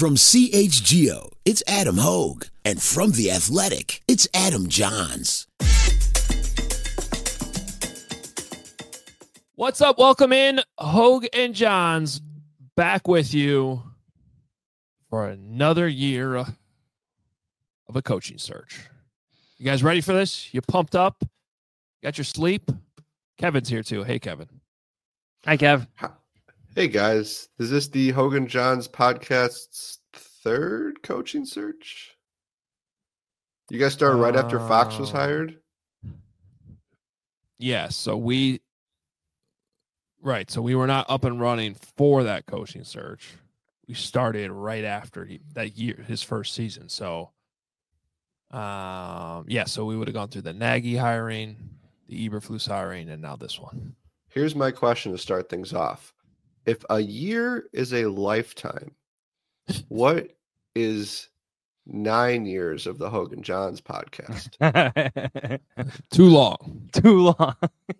From CHGO, it's Adam Hogue. And from The Athletic, it's Adam Johns. What's up? Welcome in. Hogue and Johns back with you for another year of a coaching search. You guys ready for this? You pumped up? Got your sleep? Kevin's here too. Hey, Kevin. Hi, Kev. Hey, guys. Is this the Hogue and Johns podcast's third coaching search? You guys started right after Fox was hired? Yeah, so we were not up and running for that coaching search. We started right after that year, his first season. So, so we would have gone through the Nagy hiring, the Eberflus hiring, and now this one. Here's my question to start things off. If a year is a lifetime, what is 9 years of the Hogue and Johns podcast? Too long. Too long.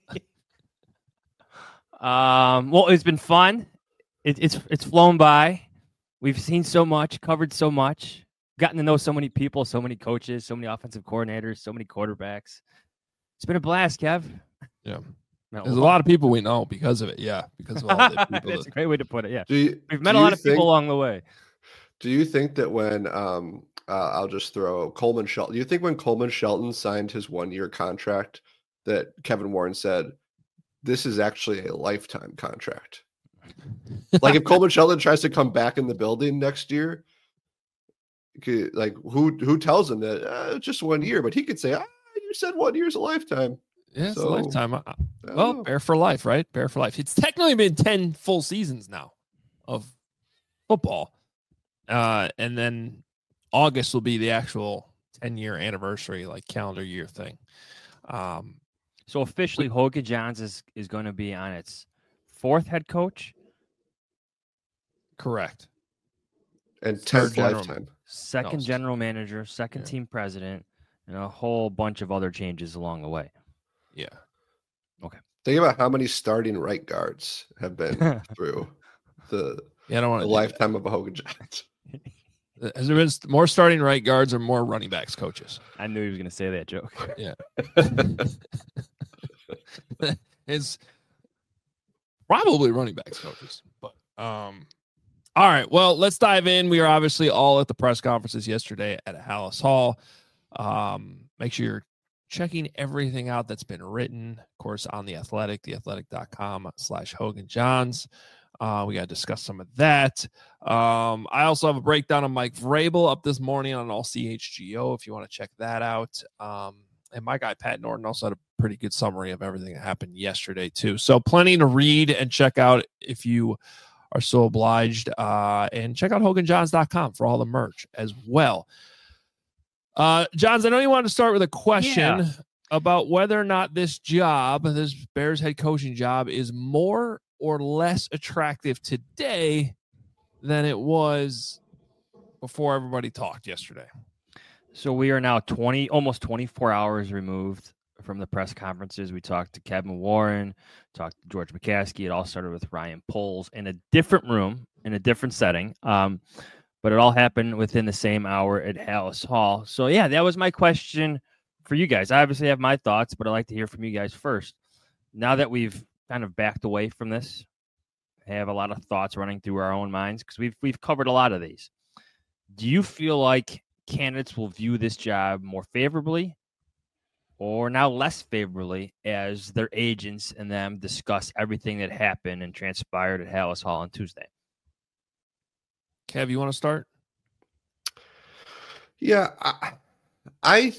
Well, it's been fun. It's flown by. We've seen so much, covered so much, gotten to know so many people, so many coaches, so many offensive coordinators, so many quarterbacks. It's been a blast, Kev. Yeah. There's a lot of people we know because of it. Yeah. Because of all the people. That's a great way to put it. Yeah. We've met a lot of people along the way. Do you think that when I'll just throw Coleman Shelton, do you think when Coleman Shelton signed his 1-year contract that Kevin Warren said, this is actually a lifetime contract? Like if Coleman Shelton tries to come back in the building next year, like who tells him that it's just 1 year, but he could say, you said 1 year is a lifetime. Yeah, it's a lifetime. Well, Bear for life, right? Bear for life. It's technically been 10 full seasons now of football. And then August will be the actual 10-year anniversary, like calendar year thing. So officially, Hogue and Johns is going to be on its fourth head coach? Correct. And 10th lifetime. Second general manager, second team president, and a whole bunch of other changes along the way. Yeah. Okay. Think about how many starting right guards have been through the lifetime of a Hogue and Johns. Has there been more starting right guards or more running backs coaches? I knew he was going to say that joke. Yeah. It's probably running backs coaches. But all right. Well, let's dive in. We are obviously all at the press conferences yesterday at Halas Hall. Make sure you're checking everything out that's been written, of course, on The Athletic, theathletic.com/Hogue and Johns. We got to discuss some of that. I also have a breakdown of Mike Vrabel up this morning on all CHGO if you want to check that out. And my guy, Pat Norton, also had a pretty good summary of everything that happened yesterday, too. So plenty to read and check out if you are so obliged. And check out HoganJohns.com for all the merch as well. Johns, I know you wanted to start with a question about whether or not this Bears head coaching job, is more or less attractive today than it was before everybody talked yesterday. So we are now almost 24 hours removed from the press conferences. We talked to Kevin Warren, talked to George McCaskey. It all started with Ryan Poles in a different room, in a different setting. But it all happened within the same hour at Halas Hall. So, yeah, that was my question for you guys. I obviously have my thoughts, but I'd like to hear from you guys first. Now that we've kind of backed away from this, I have a lot of thoughts running through our own minds because we've covered a lot of these. Do you feel like candidates will view this job more favorably or now less favorably as their agents and them discuss everything that happened and transpired at Halas Hall on Tuesday? Kev, you want to start? Yeah, I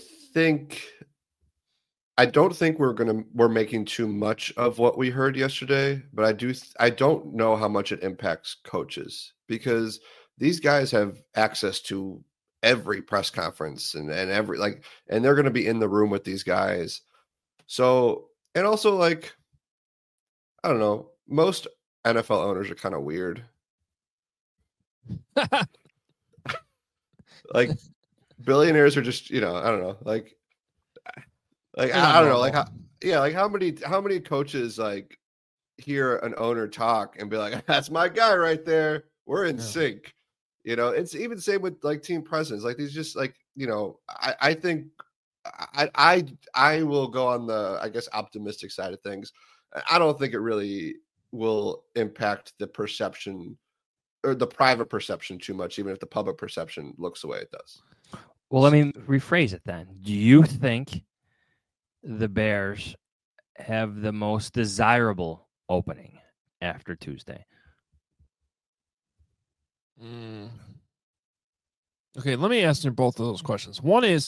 don't think we're making too much of what we heard yesterday, but I don't know how much it impacts coaches because these guys have access to every press conference and every and they're going to be in the room with these guys. So, and also I don't know, most NFL owners are kind of weird. Billionaires are just, I don't know, I don't know, how many coaches hear an owner talk and be like, that's my guy right there, we're in sync, You know, it's even the same with like team presidents. Like these just like, you know, I think I will go on the, I guess, optimistic side of things. I don't think it really will impact the perception or the private perception too much, even if the public perception looks the way it does. Well, let me rephrase it then. Do you think the Bears have the most desirable opening after Tuesday? Okay, let me answer both of those questions. One is,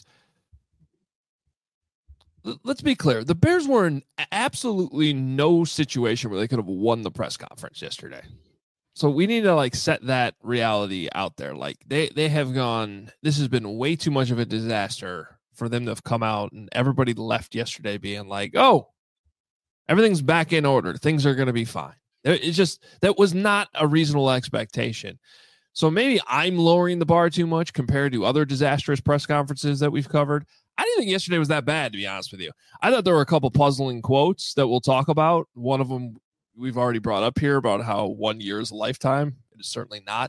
let's be clear. The Bears were in absolutely no situation where they could have won the press conference yesterday. So we need to like set that reality out there. Like they have gone, this has been way too much of a disaster for them to have come out and everybody left yesterday being like, oh, everything's back in order. Things are going to be fine. It's just, that was not a reasonable expectation. So maybe I'm lowering the bar too much compared to other disastrous press conferences that we've covered. I didn't think yesterday was that bad, to be honest with you. I thought there were a couple puzzling quotes that we'll talk about. One of them we've already brought up here about how 1 year is a lifetime. It is certainly not.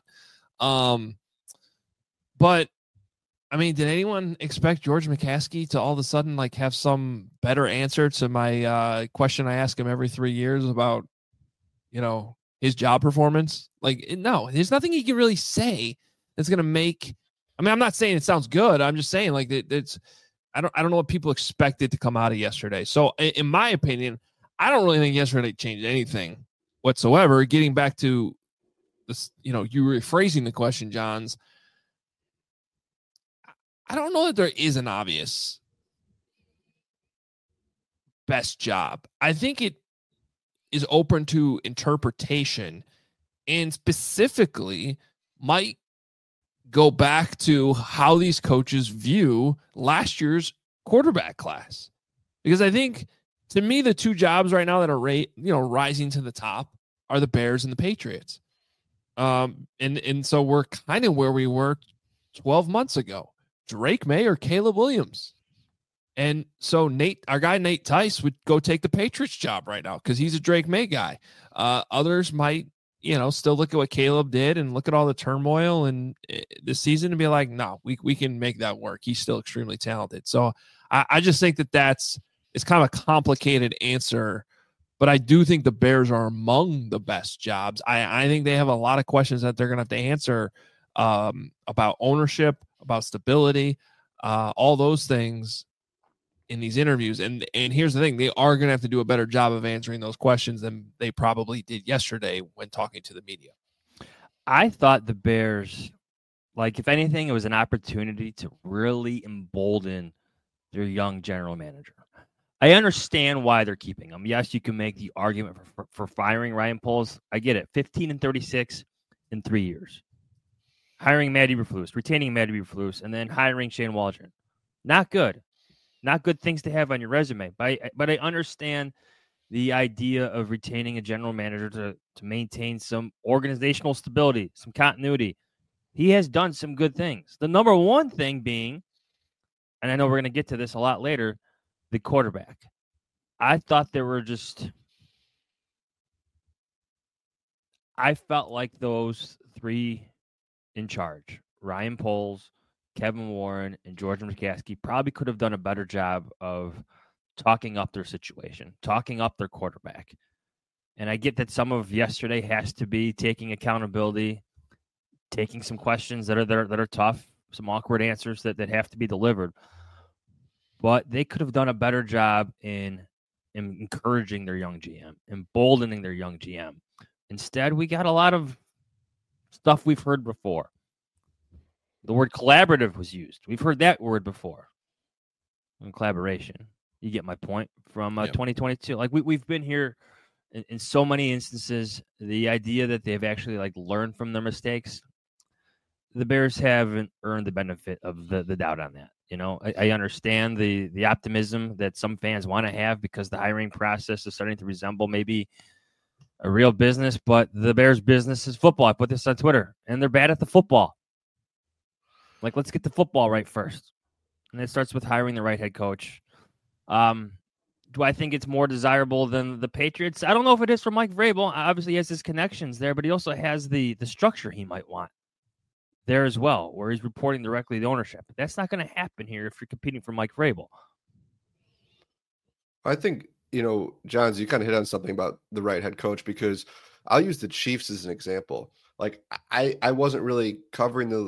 But I mean, did anyone expect George McCaskey to all of a sudden like have some better answer to my question I ask him every 3 years about, you know, his job performance? Like, no, there's nothing he can really say that's going to make, I mean, I'm not saying it sounds good. I'm just saying like it's, I don't know what people expected to come out of yesterday. So in my opinion, I don't really think yesterday changed anything whatsoever. Getting back to this, you know, you rephrasing the question, Johns, I don't know that there is an obvious best job. I think it is open to interpretation and specifically might go back to how these coaches view last year's quarterback class. Because I think, to me, the two jobs right now that are rising to the top are the Bears and the Patriots. And so we're kind of where we were 12 months ago. Drake May or Caleb Williams. And so our guy Nate Tice would go take the Patriots job right now because he's a Drake May guy. Others might, still look at what Caleb did and look at all the turmoil and this season and be like, no, we can make that work. He's still extremely talented. So I just think it's kind of a complicated answer, but I do think the Bears are among the best jobs. I think they have a lot of questions that they're going to have to answer about ownership, about stability, all those things in these interviews. And here's the thing, they are going to have to do a better job of answering those questions than they probably did yesterday when talking to the media. I thought the Bears, like, if anything, it was an opportunity to really embolden their young general manager. I understand why they're keeping him. Yes, you can make the argument for firing Ryan Poles. I get it. 15-36 in 3 years. Hiring Matt Eberflus, retaining Matt Eberflus, and then hiring Shane Waldron. Not good. Not good things to have on your resume. But I understand the idea of retaining a general manager to maintain some organizational stability, some continuity. He has done some good things. The number one thing being, and I know we're going to get to this a lot later, the quarterback. I thought there were I felt like those three in charge, Ryan Poles, Kevin Warren, and George McCaskey, probably could have done a better job of talking up their situation, talking up their quarterback. And I get that some of yesterday has to be taking accountability, taking some questions that are tough, some awkward answers that have to be delivered. But they could have done a better job in encouraging their young GM, emboldening their young GM. Instead, we got a lot of stuff we've heard before. The word collaborative was used. We've heard that word before. And collaboration. You get my point from 2022. Like we've been here in so many instances. The idea that they've actually learned from their mistakes, the Bears haven't earned the benefit of the doubt on that. I understand the optimism that some fans want to have because the hiring process is starting to resemble maybe a real business, but the Bears' business is football. I put this on Twitter, and they're bad at the football. Let's get the football right first. And it starts with hiring the right head coach. Do I think it's more desirable than the Patriots? I don't know if it is for Mike Vrabel. Obviously, he has his connections there, but he also has the structure he might want. there as well, where he's reporting directly to ownership. That's not going to happen here if you're competing for Mike Vrabel. I think, Johns, you kind of hit on something about the right head coach, because I'll use the Chiefs as an example. Like I wasn't really covering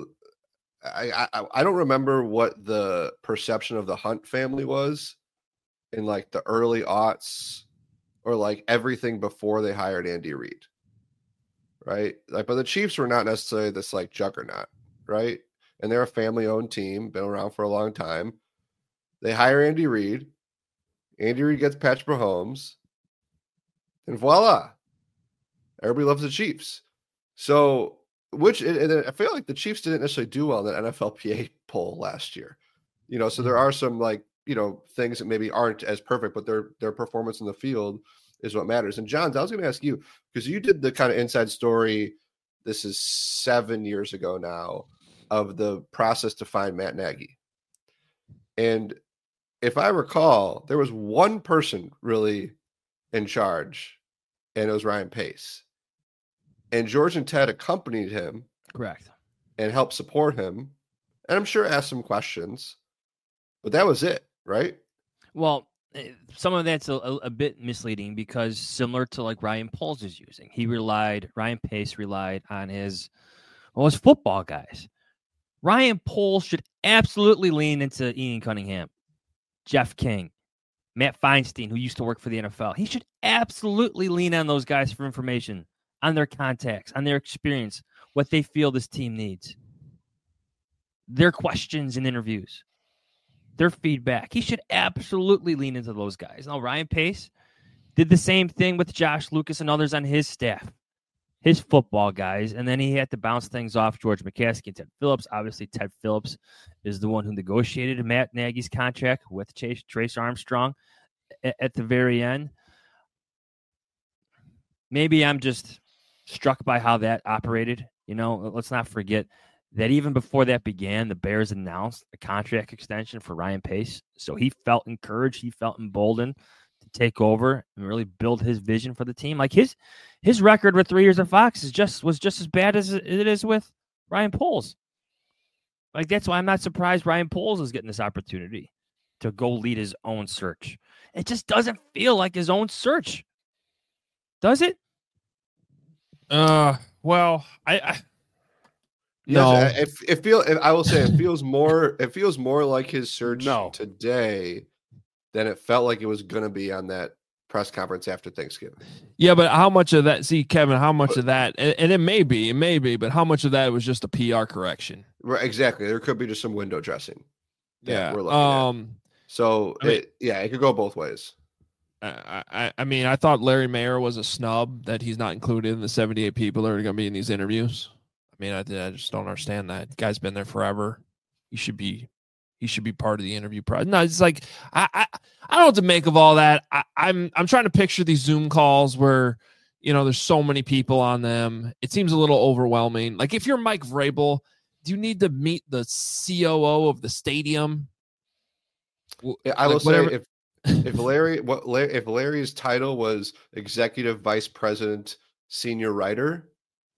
I don't remember what the perception of the Hunt family was in like the early aughts or like everything before they hired Andy Reid. Right. Like, but the Chiefs were not necessarily this like juggernaut. Right. And they're a family owned team, been around for a long time. They hire Andy Reid. Andy Reid gets Patrick Mahomes. And voila. Everybody loves the Chiefs. So, and I feel like the Chiefs didn't necessarily do well in the NFLPA poll last year. So there are some like, things that maybe aren't as perfect, but their performance in the field is what matters. And Johns, I was going to ask you, because you did the kind of inside story, this is 7 years ago now, of the process to find Matt Nagy. And if I recall, there was one person really in charge, and it was Ryan Pace. And George and Ted accompanied him. Correct. And helped support him. And I'm sure asked some questions. But that was it, right? Well, some of that's a bit misleading, because similar to like Ryan Poles is using, Ryan Pace relied on his football guys. Ryan Poles should absolutely lean into Ian Cunningham, Jeff King, Matt Feinstein, who used to work for the NFL. He should absolutely lean on those guys for information, on their contacts, on their experience, what they feel this team needs, their questions and interviews, their feedback. He should absolutely lean into those guys. Now, Ryan Pace did the same thing with Josh Lucas and others on his staff, his football guys, and then he had to bounce things off George McCaskey and Ted Phillips. Obviously, Ted Phillips is the one who negotiated Matt Nagy's contract with Trace Armstrong at the very end. Maybe I'm just struck by how that operated. Let's not forget that even before that began, the Bears announced a contract extension for Ryan Pace. So he felt encouraged. He felt emboldened to take over and really build his vision for the team. Like his record with 3 years at Fox was just as bad as it is with Ryan Poles. Like, that's why I'm not surprised Ryan Poles is getting this opportunity to go lead his own search. It just doesn't feel like his own search. Does it? Well, no. I will say it feels more like his search today than it felt like it was going to be on that press conference after Thanksgiving. Yeah, but how much of that? See, Kevin, how much of that? And it may be, but how much of that was just a PR correction? Right, exactly. There could be just some window dressing. Yeah, we're looking at. So it could go both ways. I mean, I thought Larry Mayer was a snub that he's not included in the 78 people that are going to be in these interviews. I mean, I just don't understand that. The guy's been there forever. He should be part of the interview process. No, it's like I don't know what to make of all that. I'm trying to picture these Zoom calls where there's so many people on them. It seems a little overwhelming. Like, if you're Mike Vrabel, do you need to meet the COO of the stadium? I will say if Larry's title was executive vice president, senior writer,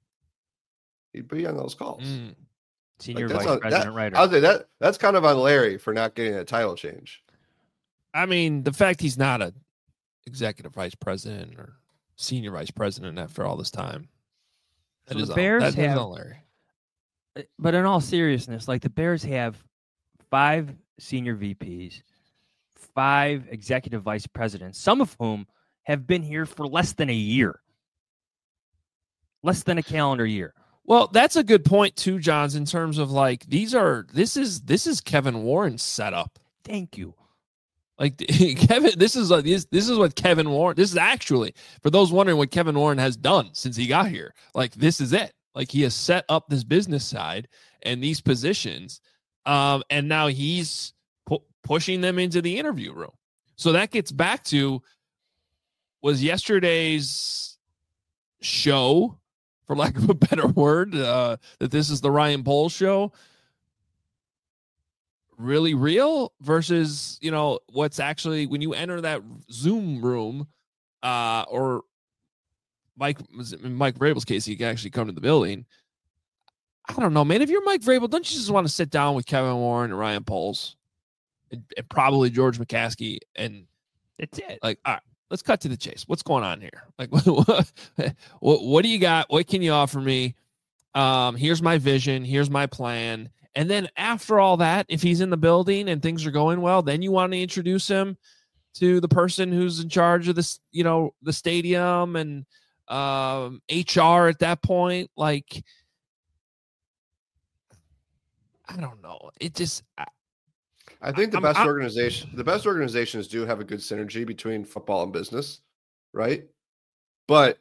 he'd be on those calls. Senior vice president writer. I'll say that's kind of on Larry for not getting a title change. I mean, the fact he's not a executive vice president or senior vice president after all this time. So the Bears have on Larry. But in all seriousness, like, the Bears have 5 senior VPs, 5 executive vice presidents, some of whom have been here for less than a year, less than a calendar year. Well, that's a good point too, Johns, in terms of like this is Kevin Warren's setup. Thank you. Like, Kevin, this is what Kevin Warren. This is actually, for those wondering what Kevin Warren has done since he got here. Like, this is it. Like, he has set up this business side and these positions, and now he's pushing them into the interview room. So that gets back to, was yesterday's show, for lack of a better word, that this is the Ryan Poles show, really real versus, what's actually, when you enter that Zoom room, or Mike Vrabel's case, he can actually come to the building. I don't know, man. If you're Mike Vrabel, don't you just want to sit down with Kevin Warren and Ryan Poles and probably George McCaskey and That's it. like, all right, let's cut to the chase. What's going on here? Like, what do you got? What can you offer me? Here's my vision. Here's my plan. And then after all that, if he's in the building and things are going well, then you want to introduce him to the person who's in charge of this, the stadium and HR at that point. Like, I don't know. It just, I think the best organizations do have a good synergy between football and business, right? But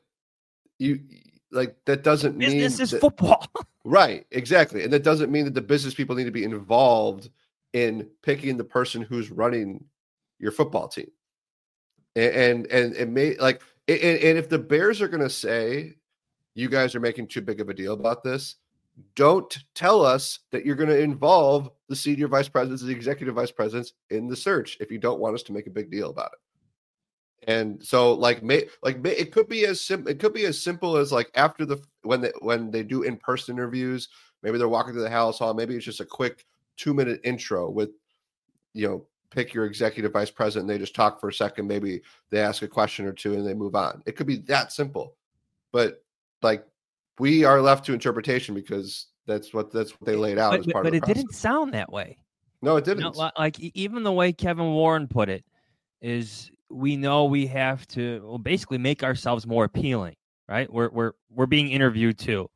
that doesn't mean this is football. Right, exactly. And that doesn't mean that the business people need to be involved in picking the person who's running your football team. And it may and if the Bears are going to say you guys are making too big of a deal about this, don't tell us that you're going to involve the senior vice presidents, the executive vice presidents in the search if you don't want us to make a big deal about it. And so it could be as simple as like after when they do in-person interviews, maybe they're walking through the Halas Hall, maybe it's just a quick 2-minute intro with, pick your executive vice president and they just talk for a second, maybe they ask a question or two and they move on. It could be that simple. But we are left to interpretation because that's what they laid out as part of the process. But it didn't sound that way. No, it didn't. Even the way Kevin Warren put it is, we know we have to basically make ourselves more appealing, right? We're being interviewed too.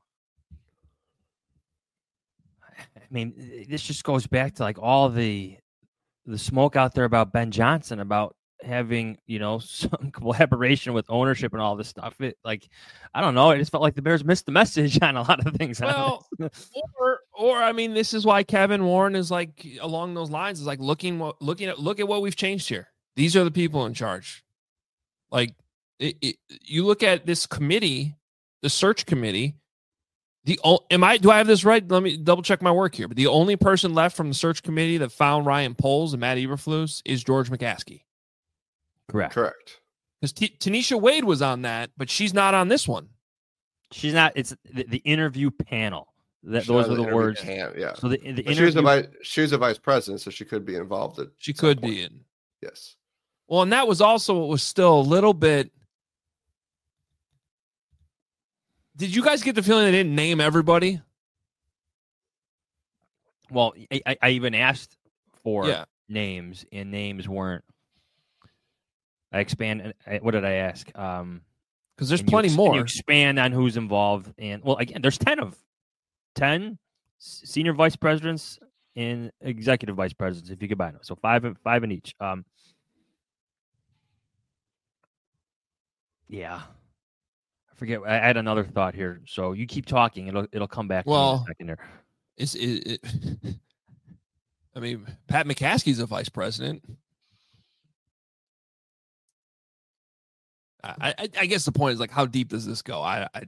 I mean, this just goes back to like all the smoke out there about Ben Johnson, about having, some collaboration with ownership and all this stuff. I don't know. It just felt like the Bears missed the message on a lot of things. Well, or I mean, this is why Kevin Warren is like along those lines, is like look at what we've changed here. These are the people in charge. Like you look at this committee, the search committee. Do I have this right? Let me double check my work here. But the only person left from the search committee that found Ryan Poles and Matt Eberflus is George McCaskey. Correct. Because Tanisha Wade was on that, but she's not on this one. She's not. It's the interview panel. Those are the words. Yeah. So the she was a vice president, so she could be involved. She could be in. Yes. Well, and that was also what was still a little bit. Did you guys get the feeling they didn't name everybody? Well, I even asked for names, and names weren't. I expand. What did I ask? Because there's plenty more. Can you expand on who's involved? And well, again, there's 10 senior vice presidents and executive vice presidents if you combine them. So five in each. Yeah. I forget. I had another thought here. So you keep talking. It'll come back to me in a second there. I mean, Pat McCaskey's a vice president. I guess the point is like, how deep does this go?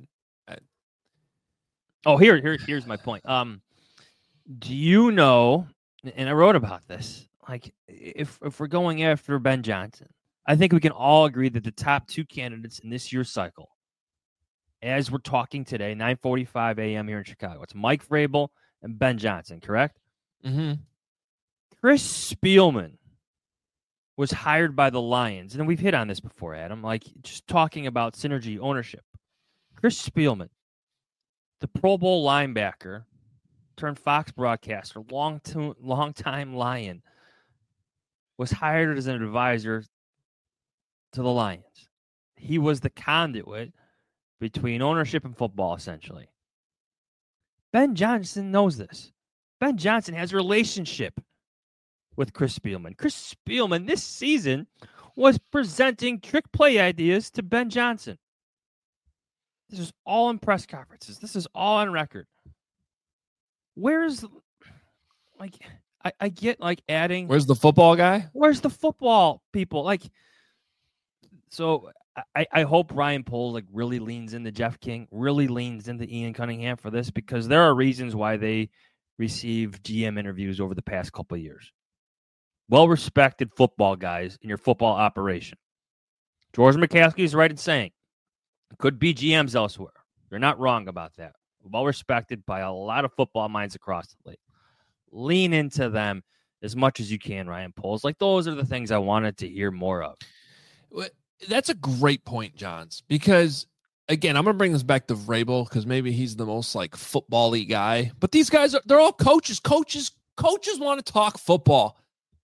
Here's my point. Do you know? And I wrote about this. Like, if we're going after Ben Johnson, I think we can all agree that the top two candidates in this year's cycle, as we're talking today, 9:45 a.m. here in Chicago, it's Mike Vrabel and Ben Johnson. Correct? Mm-hmm. Chris Spielman was hired by the Lions, and we've hit on this before, Adam, like just talking about synergy ownership. Chris Spielman, the Pro Bowl linebacker turned Fox broadcaster, long-time Lion, was hired as an advisor to the Lions. He was the conduit between ownership and football, essentially. Ben Johnson knows this. Ben Johnson has a relationship with Chris Spielman. Chris Spielman this season was presenting trick play ideas to Ben Johnson. This is all in press conferences. This is all on record. Where's, like, I get, like, adding. Where's the football guy? Where's the football people? Like, so I hope Ryan Poles, like, really leans into Jeff King, really leans into Ian Cunningham for this, because there are reasons why they receive GM interviews over the past couple of years. Well-respected football guys in your football operation. George McCaskey is right in saying it could be GMs elsewhere. They're not wrong about that. well respected by a lot of football minds across the league. Lean into them as much as you can, Ryan Poles. Like, those are the things I wanted to hear more of. That's a great point, Johns, because again, I'm going to bring this back to Vrabel because maybe he's the most like football-y guy, but these guys they're all coaches. Coaches want to talk football.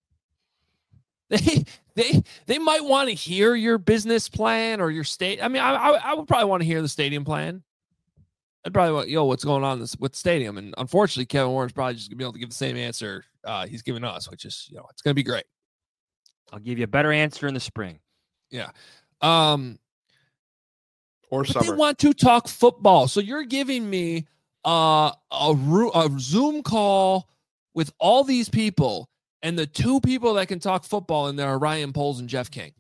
They might want to hear your business plan or your state. I mean, I would probably want to hear the stadium plan. I'd probably want, what's going on with the stadium? And unfortunately, Kevin Warren's probably just gonna be able to give the same answer he's giving us, which is, it's gonna be great. I'll give you a better answer in the spring. Yeah. Or summer. They want to talk football. So you're giving me a Zoom call with all these people, and the two people that can talk football in there are Ryan Poles and Jeff King.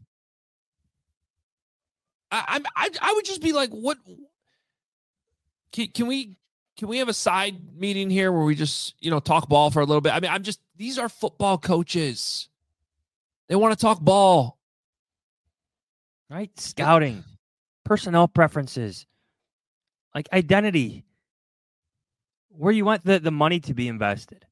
I would just be like, what? Can we have a side meeting here where we just talk ball for a little bit? I mean, these are football coaches. They want to talk ball. Right? Scouting, personnel preferences, like identity, where you want the money to be invested.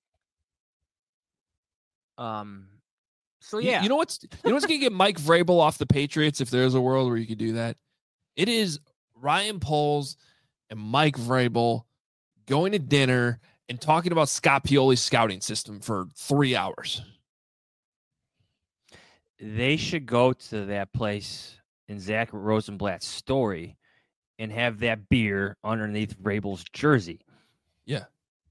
So yeah. You know what's going to get Mike Vrabel off the Patriots if there's a world where you could do that? It is Ryan Poles and Mike Vrabel going to dinner and talking about Scott Pioli's scouting system for 3 hours. They should go to that place in Zach Rosenblatt's story and have that beer underneath Vrabel's jersey. Yeah.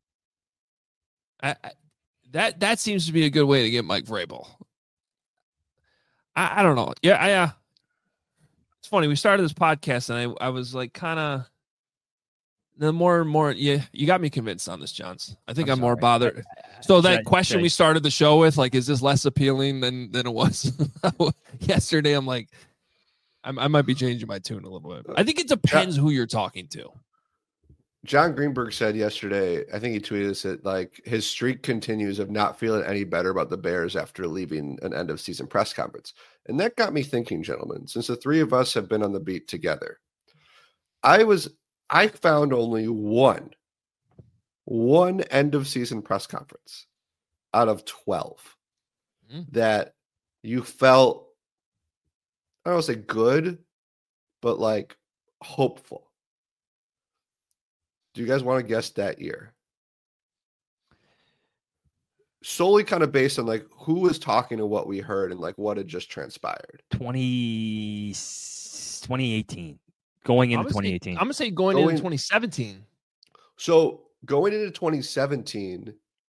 That seems to be a good way to get Mike Vrabel. I don't know. Yeah. It's funny. We started this podcast and I was like kind of the more and more. Yeah, you got me convinced on this, Johns. I think I'm more bothered. So that question we started the show with, like, is this less appealing than it was yesterday? I'm like, I might be changing my tune a little bit. I think it depends who you're talking to. John Greenberg said yesterday, I think he tweeted us that like his streak continues of not feeling any better about the Bears after leaving an end of season press conference. And that got me thinking, gentlemen, since the three of us have been on the beat together, I found only one end of season press conference out of 12 that you felt, I don't want to say good, but like hopeful. Do you guys want to guess that year? Solely kind of based on like who was talking to what we heard and like what had just transpired. 2018. Going into 2018. I'm going to say going into 2017. So going into 2017,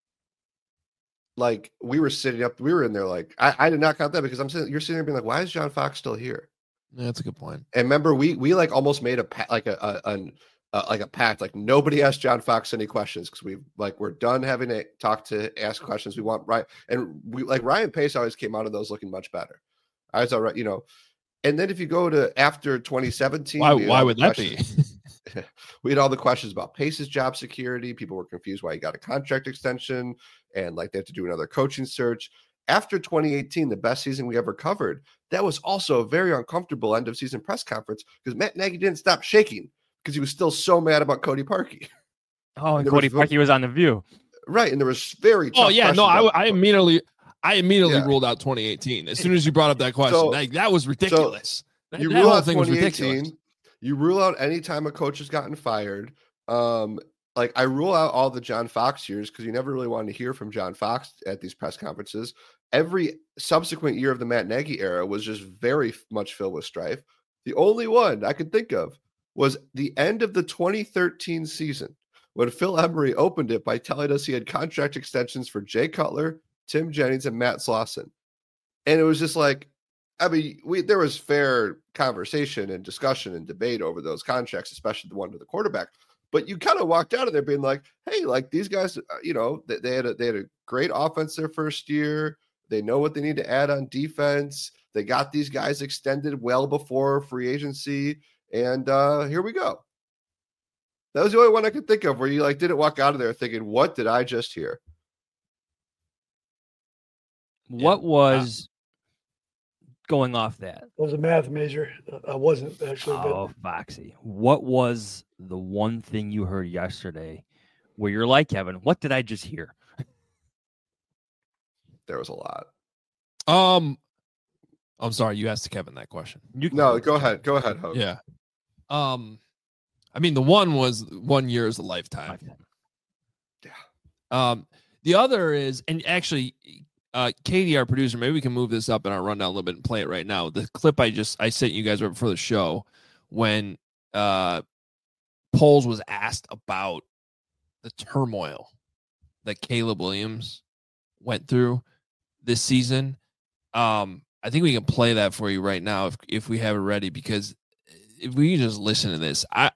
like we were in there like, I did not count that because you're sitting there being like, why is John Fox still here? Yeah, that's a good point. And remember, we like almost made a pact, like nobody asked John Fox any questions because we're done having to ask questions. We want right, and we like Ryan Pace always came out of those looking much better. I was all right, And then if you go to after 2017, why would that be? We had all the questions about Pace's job security. People were confused why he got a contract extension and like they have to do another coaching search. After 2018, the best season we ever covered, that was also a very uncomfortable end of season press conference because Matt Nagy didn't stop shaking because he was still so mad about Cody Parkey. Oh, and Cody Parkey was on The View. Right. And there was very tough questions. I immediately ruled out 2018. As soon as you brought up that question, that was ridiculous. You rule out 2018. You rule out any time a coach has gotten fired. Like I rule out all the John Fox years because you never really wanted to hear from John Fox at these press conferences. Every subsequent year of the Matt Nagy era was just very much filled with strife. The only one I could think of was the end of the 2013 season when Phil Emery opened it by telling us he had contract extensions for Jay Cutler, Tim Jennings, and Matt Slauson. And it was just like, I mean, there was fair conversation and discussion and debate over those contracts, especially the one to the quarterback. But you kind of walked out of there being like, hey, like these guys, they had a great offense their first year. They know what they need to add on defense. They got these guys extended well before free agency. And here we go. That was the only one I could think of where you like didn't walk out of there thinking, what did I just hear? What was going off that. I was a math major. I wasn't actually. Oh, Foxy. What was the one thing you heard yesterday where you're like, Kevin, what did I just hear? There was a lot. I'm sorry, you asked Kevin that question. No, go ahead. Go ahead, Hope. Yeah. I mean, the one was 1 year is a lifetime. Yeah. The other is, and actually, Katie, our producer, maybe we can move this up in our rundown a little bit and play it right now. The clip I sent you guys right before the show when Poles was asked about the turmoil that Caleb Williams went through this season. I think we can play that for you right now if we have it ready, because if we can just listen to this, I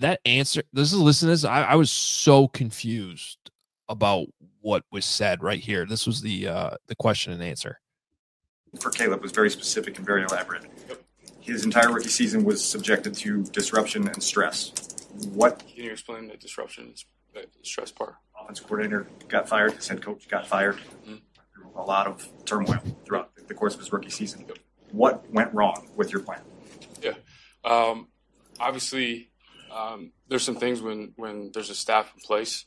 was so confused about what was said right here. This was the question and answer. For Caleb was very specific and very elaborate. His entire rookie season was subjected to disruption and stress. What can you explain the disruption, the stress part? Offensive coordinator got fired. His head coach got fired. Mm-hmm. A lot of turmoil throughout the course of his rookie season. What went wrong with your plan? Yeah. Obviously, there's some things when there's a staff in place.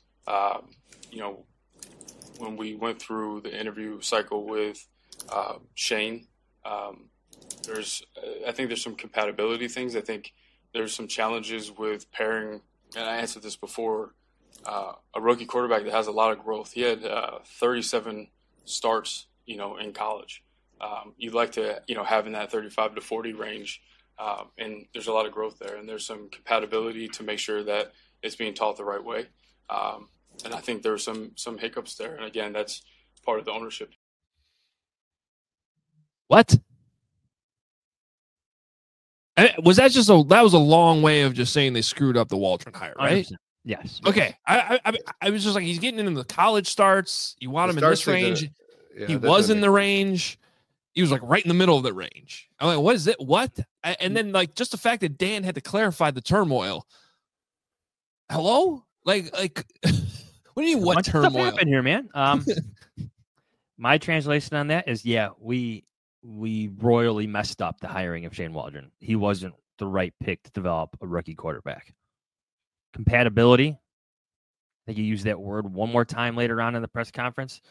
When we went through the interview cycle with Shane, I think there's some compatibility things. I think there's some challenges with pairing, and I answered this before, a rookie quarterback that has a lot of growth. He had 37 starts, in college. You'd like to, have in that 35 to 40 range. And there's a lot of growth there, and there's some compatibility to make sure that it's being taught the right way. And I think there were some hiccups there. And again, that's part of the ownership. What? Was that that was a long way of just saying they screwed up the Waldron hire, right? 100%. Yes. Okay. I was just like, he's getting into the college starts. You want him in this range. He was in the range. He was like right in the middle of the range. I'm like, what is it? What? And then just the fact that Dan had to clarify the turmoil. Hello? Like, what do you mean? What turmoil? Stuff happened here, man. My translation on that is, we royally messed up the hiring of Shane Waldron. He wasn't the right pick to develop a rookie quarterback. Compatibility. I think you used that word one more time later on in the press conference.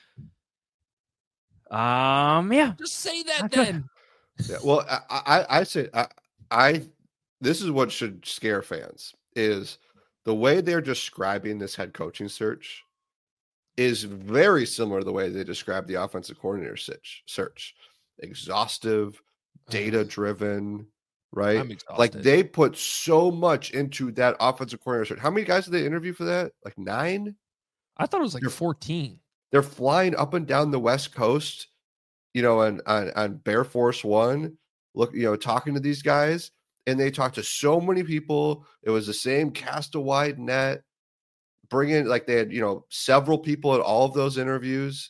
Just say that then. Yeah, well, I say this is what should scare fans is the way they're describing this head coaching search is very similar to the way they describe the offensive coordinator search. Exhaustive, data driven, right? I'm exhausted. Like they put so much into that offensive coordinator search. How many guys did they interview for that? Like 9? I thought it was like 14. They're flying up and down the West Coast, on Bear Force One, talking to these guys, and they talked to so many people. It was the same cast a wide net, bringing they had, several people at all of those interviews,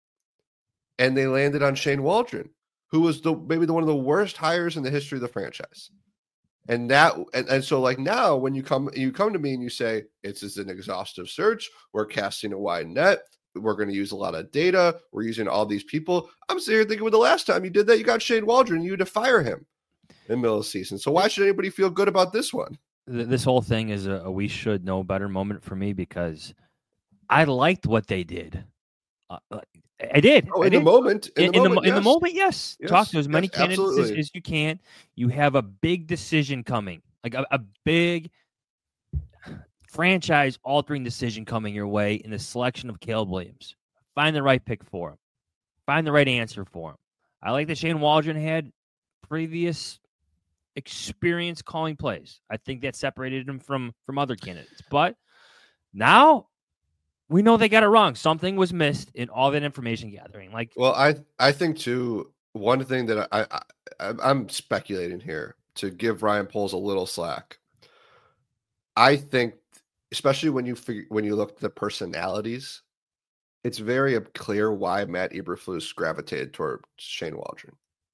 and they landed on Shane Waldron, who was maybe one of the worst hires in the history of the franchise. And so now when you come to me and you say, it's an exhaustive search, we're casting a wide net, we're going to use a lot of data, we're using all these people. I'm sitting here thinking, well, the last time you did that, you got Shane Waldron, you had to fire him in the middle of the season. So why should anybody feel good about this one? This whole thing is a we should know better moment for me because I liked what they did. I did. Oh, in the moment. In the moment, yes. Talk to as many candidates as you can. You have a big decision coming, like a big franchise-altering decision coming your way in the selection of Caleb Williams. Find the right pick for him. Find the right answer for him. I like that Shane Waldron had previous experience calling plays. I think that separated him from other candidates. But now we know they got it wrong. Something was missed in all that information gathering. I think too, one thing that I'm speculating here to give Ryan Poles a little slack. I think, especially when you look at the personalities, it's very clear why Matt Eberflus gravitated toward Shane Waldron.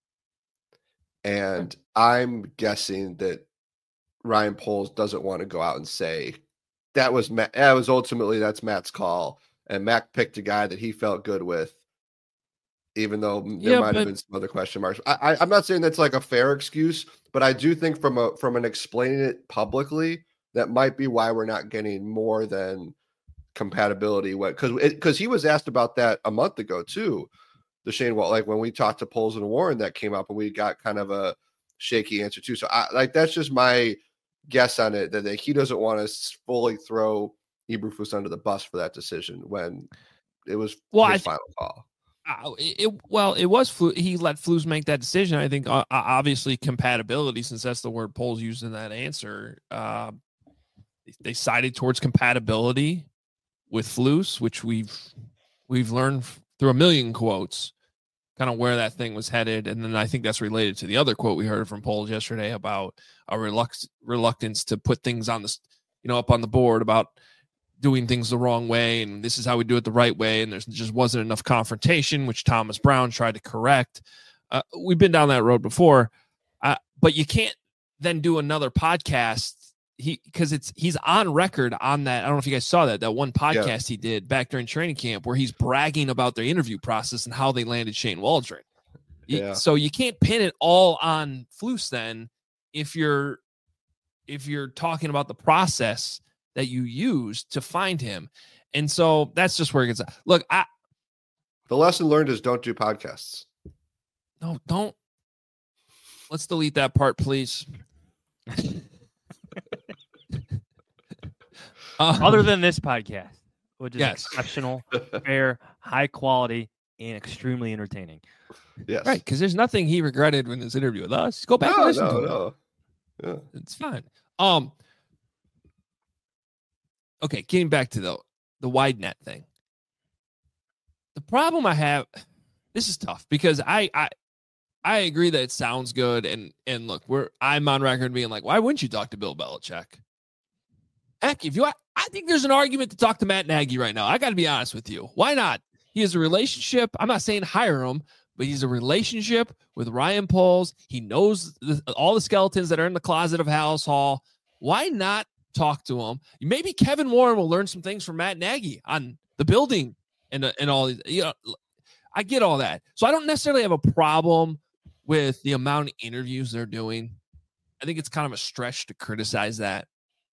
And I'm guessing that Ryan Poles doesn't want to go out and say that was Matt. That's Matt's call, and Matt picked a guy that he felt good with. even though there might have been some other question marks. I'm not saying that's like a fair excuse, but I do think from an explaining it publicly, that might be why we're not getting more than compatibility. Because he was asked about that a month ago too. The Shane Wall, like when we talked to Poles and Warren, that came up and we got kind of a shaky answer too. So that's just my guess on it, that he doesn't want to fully throw Eberflus under the bus for that decision when it was his final call. It was Flus. He let Flus make that decision. I think obviously compatibility, since that's the word Poles used in that answer. They sided towards compatibility with Flus, which we've learned through a million quotes, kind of where that thing was headed. And then I think that's related to the other quote we heard from Poles yesterday about a reluctance to put things on the, up on the board about doing things the wrong way, and this is how we do it the right way, and there just wasn't enough confrontation, which Thomas Brown tried to correct. We've been down that road before, but you can't then do another podcast because he's on record on that. I don't know if you guys saw that one podcast he did back during training camp where he's bragging about their interview process and how they landed Shane Waldron. So you can't pin it all on Flus then if you're talking about the process that you used to find him. And so that's just where it gets. Look, the lesson learned is don't do podcasts. No, don't. Let's delete that part, please. Other than this podcast, which is exceptional, fair, high quality, and extremely entertaining. Yes. Right, because there's nothing he regretted in his interview with us. Go back and listen to it. Yeah. It's fine. Okay, getting back to the wide net thing. The problem I have, this is tough because I agree that it sounds good, and look, I'm on record being like, why wouldn't you talk to Bill Belichick? Heck, I think there's an argument to talk to Matt Nagy right now. I got to be honest with you. Why not? He has a relationship. I'm not saying hire him, but he's a relationship with Ryan Poles. He knows all the skeletons that are in the closet of Halas Hall. Why not talk to him? Maybe Kevin Warren will learn some things from Matt Nagy on the building and all these. I get all that. So I don't necessarily have a problem with the amount of interviews they're doing. I think it's kind of a stretch to criticize that.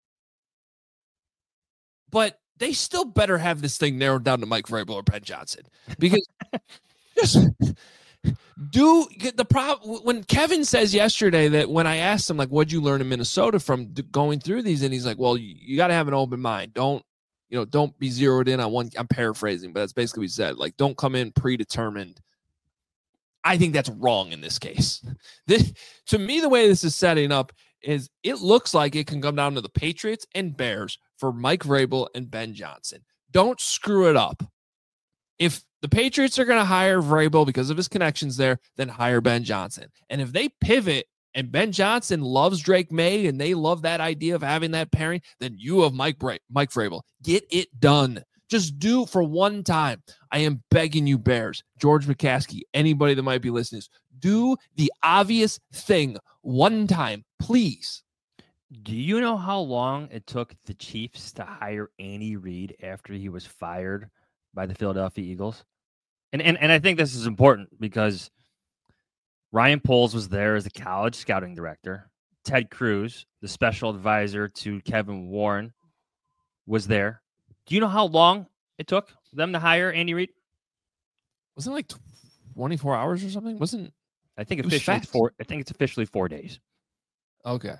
But they still better have this thing narrowed down to Mike Vrabel or Ben Johnson, because just get the problem. When Kevin says yesterday that when I asked him, like, what'd you learn in Minnesota from going through these? And he's like, well, you got to have an open mind. Don't be zeroed in on one. I'm paraphrasing, but that's basically what he said. Like, don't come in predetermined. I think that's wrong in this case. To me, the way this is setting up is it looks like it can come down to the Patriots and Bears for Mike Vrabel and Ben Johnson. Don't screw it up. If the Patriots are going to hire Vrabel because of his connections there, then hire Ben Johnson. And if they pivot and Ben Johnson loves Drake May and they love that idea of having that pairing, then you have Mike Vrabel. Get it done. Just do for one time. I am begging you, Bears, George McCaskey, anybody that might be listening, do the obvious thing one time, please. Do you know how long it took the Chiefs to hire Andy Reid after he was fired by the Philadelphia Eagles? And I think this is important because Ryan Poles was there as the college scouting director. Ted Cruz, the special advisor to Kevin Warren, was there. Do you know how long it took them to hire Andy Reid? Wasn't it like 24 hours or something? I think it's officially 4 days. Okay.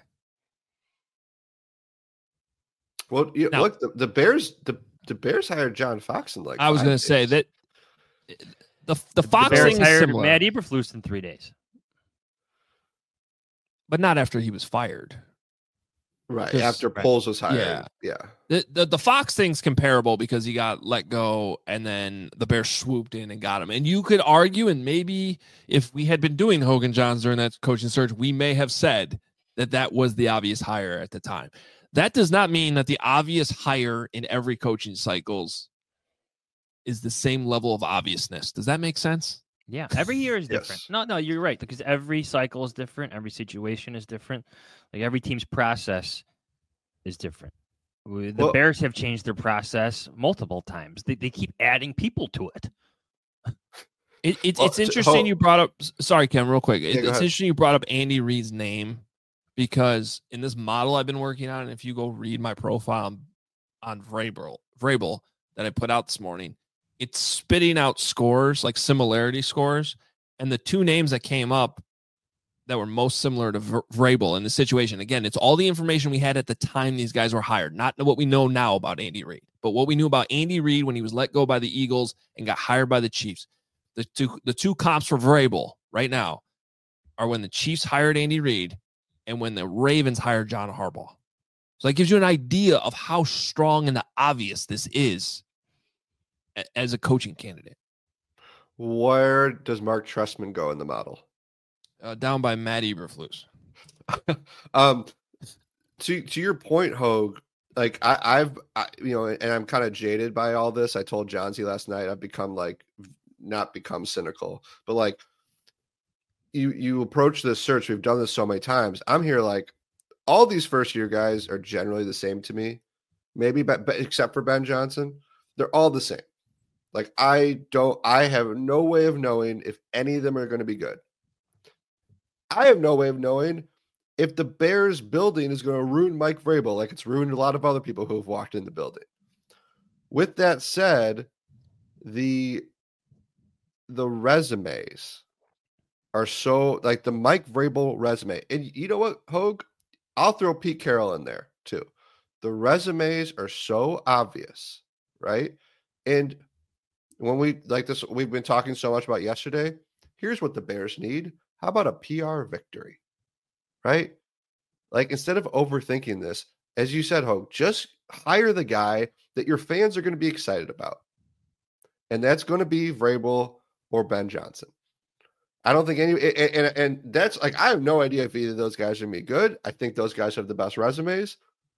Well, look, the Bears hired John Fox in I was going to say that the Fox Bears thing is hired similar. Matt Eberflus in 3 days, but not after he was fired. Right, after Poles was hired. Yeah. The Fox thing's comparable because he got let go and then the Bears swooped in and got him. And you could argue, and maybe if we had been doing Hogan Johns during that coaching search, we may have said that was the obvious hire at the time. That does not mean that the obvious hire in every coaching cycles is the same level of obviousness. Does that make sense? Yeah, every year is different. Yes. No, you're right, because every cycle is different. Every situation is different. Like every team's process is different. The Bears have changed their process multiple times. They keep adding people to it. It's interesting you brought up. Sorry, Ken, real quick. It's ahead. interesting you brought up Andy Reid's name because in this model I've been working on, and if you go read my profile on Vrabel that I put out this morning, it's spitting out scores, like similarity scores, and the two names that came up that were most similar to Vrabel in the situation. Again, it's all the information we had at the time these guys were hired, not what we know now about Andy Reid, but what we knew about Andy Reid when he was let go by the Eagles and got hired by the Chiefs. The two comps for Vrabel right now are when the Chiefs hired Andy Reid and when the Ravens hired John Harbaugh. So that gives you an idea of how strong and obvious this is as a coaching candidate. Where does Mark Trestman go in the model? Down by Matt Eberflus. To your point, Hogue, like I've and I'm kind of jaded by all this. I told Johnsy last night I've not become cynical, but like you approach this search. We've done this so many times. I'm here like all these first year guys are generally the same to me, maybe but except for Ben Johnson, they're all the same. Like I have no way of knowing if any of them are going to be good. I have no way of knowing if the Bears building is going to ruin Mike Vrabel like it's ruined a lot of other people who have walked in the building. With that said, the resumes are so like the Mike Vrabel resume. And you know what, Hogue? I'll throw Pete Carroll in there too. The resumes are so obvious, right? And when we like this, we've been talking so much about yesterday. Here's what the Bears need. How about a PR victory, right? Like instead of overthinking this, as you said, Hogue, just hire the guy that your fans are going to be excited about. And that's going to be Vrabel or Ben Johnson. I don't think and that's like, I have no idea if either of those guys are going to be good. I think those guys have the best resumes.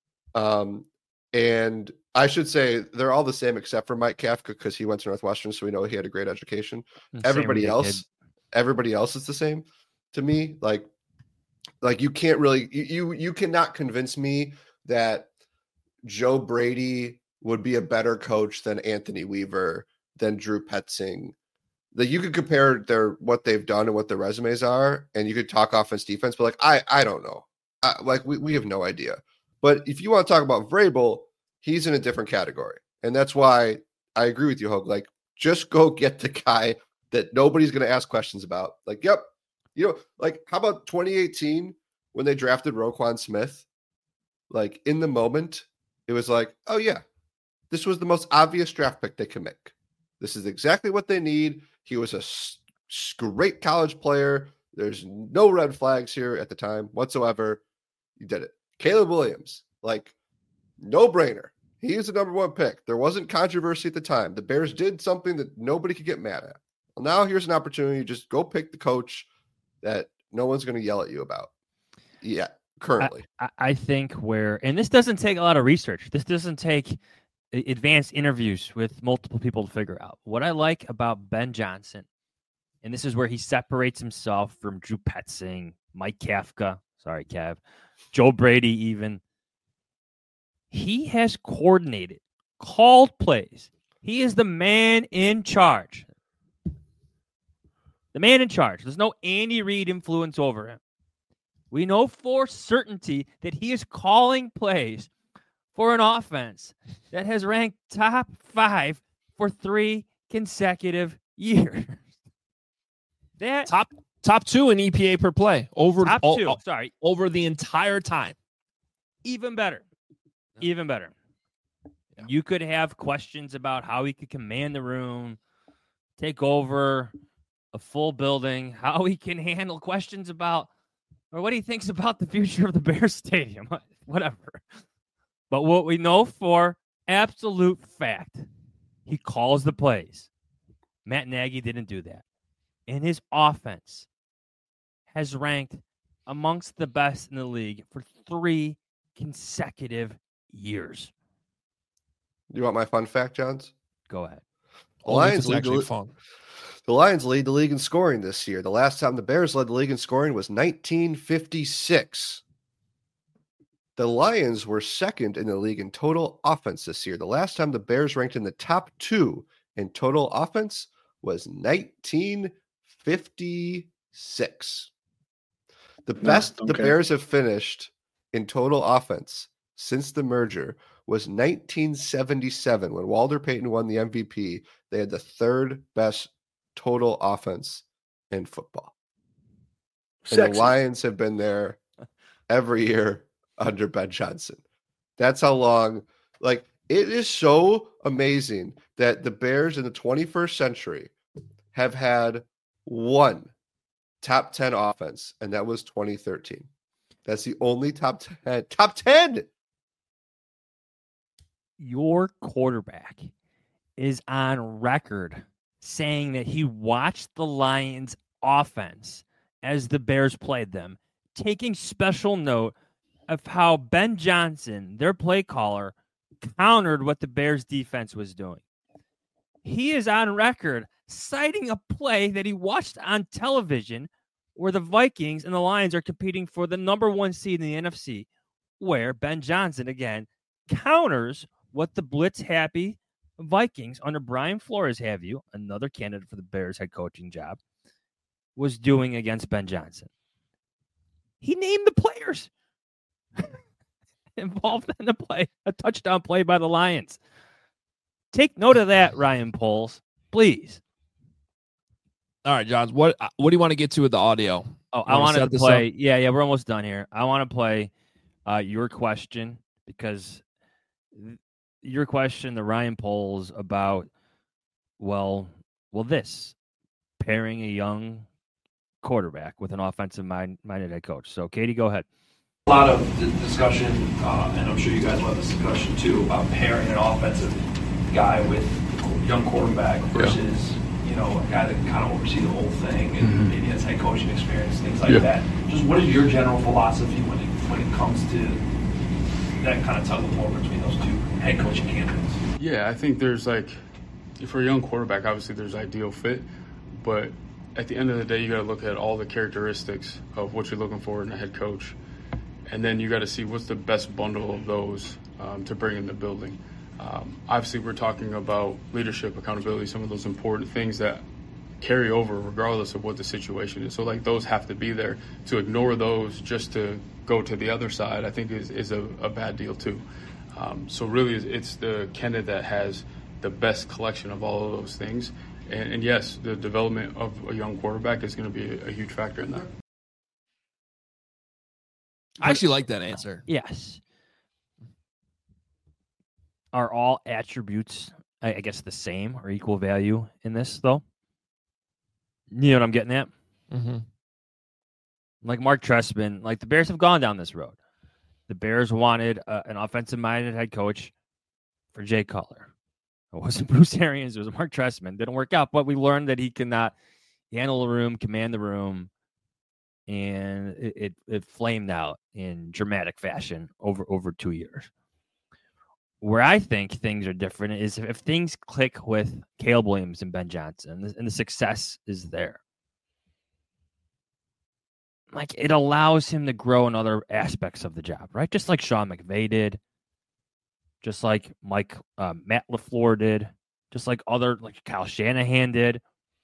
And I should say they're all the same except for Mike Kafka because he went to Northwestern, so we know he had a great education. Everybody else is the same to me. Like you can't really you cannot convince me that Joe Brady would be a better coach than Anthony Weaver, than Drew Petzing. That you could compare what they've done and what their resumes are, and you could talk offense defense, but like I don't know. We have no idea. But if you want to talk about Vrabel, he's in a different category. And that's why I agree with you, Hogue. Like, just go get the guy that nobody's going to ask questions about. Like, yep. Like, how about 2018 when they drafted Roquan Smith? Like, in the moment, it was like, oh, yeah, this was the most obvious draft pick they could make. This is exactly what they need. He was a great college player. There's no red flags here at the time whatsoever. You did it. Caleb Williams, like, no brainer. He's the number one pick. There wasn't controversy at the time. The Bears did something that nobody could get mad at. Well, now here's an opportunity to just go pick the coach that no one's going to yell at you about. Yeah, currently. I think and this doesn't take a lot of research. This doesn't take advanced interviews with multiple people to figure out. What I like about Ben Johnson, and this is where he separates himself from Drew Petzing, Mike Kafka, sorry, Kev, Joe Brady even. He has coordinated, called plays. He is the man in charge. The man in charge. There's no Andy Reid influence over him. We know for certainty that he is calling plays for an offense that has ranked top 5 for 3 consecutive years. That top 2 in EPA per play over the entire time. Even better. Even better. Yeah. You could have questions about how he could command the room, take over a full building, how he can handle questions about, or what he thinks about the future of the Bears Stadium, whatever. But what we know for absolute fact, he calls the plays. Matt Nagy didn't do that. And his offense has ranked amongst the best in the league for 3 consecutive years. You want my fun fact, Johns? Go ahead. The Lions lead the league in scoring this year. The last time the Bears led the league in scoring was 1956. The Lions were second in the league in total offense this year. The last time the Bears ranked in the top 2 in total offense was 1956. The best the Bears have finished in total offense since the merger was 1977 when Walter Payton won the MVP. They had the third best total offense in football. And the Lions have been there every year under Ben Johnson. That's how long. Like, it is so amazing that the Bears in the 21st century have had one top 10 offense, and that was 2013. That's the only top 10. Top 10! Your quarterback is on record saying that he watched the Lions offense as the Bears played them, taking special note of how Ben Johnson, their play caller, countered what the Bears defense was doing. He is on record citing a play that he watched on television where the Vikings and the Lions are competing for the number 1 seed in the NFC, where Ben Johnson, again, counters what the blitz-happy Vikings under Brian Flores, another candidate for the Bears head coaching job, was doing against Ben Johnson. He named the players involved in the play, a touchdown play by the Lions. Take note of that, Ryan Poles, please. All right, Johns, what do you want to get to with the audio? Oh, I want to play. Yeah, we're almost done here. I want to play your question, because your question, the Ryan Poles, about, this pairing a young quarterback with an offensive-minded head coach. So, Katie, go ahead. A lot of discussion, and I'm sure you guys will have this discussion too, about pairing an offensive guy with a young quarterback versus a guy that can kind of oversee the whole thing and maybe has head coaching experience, things like that. Just what is your general philosophy when it comes to that kind of tug of war between those two head coaching candidates? Yeah, I think there's for a young quarterback, obviously there's ideal fit, but at the end of the day, you got to look at all the characteristics of what you're looking for in a head coach. And then you got to see what's the best bundle of those to bring in the building. Obviously, we're talking about leadership, accountability, some of those important things that carry over regardless of what the situation is. So, those have to be there. To ignore those just to go to the other side, I think is a bad deal too. So really, it's the candidate that has the best collection of all of those things. And yes, the development of a young quarterback is going to be a huge factor in that. I actually like that answer. Yes. Are all attributes, I guess, the same or equal value in this, though? You know what I'm getting at? Mm-hmm. Like Mark Trestman, the Bears have gone down this road. The Bears wanted an offensive-minded head coach for Jay Cutler. It wasn't Bruce Arians. It was Mark Trestman. Didn't work out, but we learned that he cannot handle the room, command the room, and it flamed out in dramatic fashion over 2 years. Where I think things are different is if things click with Caleb Williams and Ben Johnson, and the success is there. It allows him to grow in other aspects of the job, right? Just like Sean McVay did, just like Matt LaFleur did, just like Kyle Shanahan did.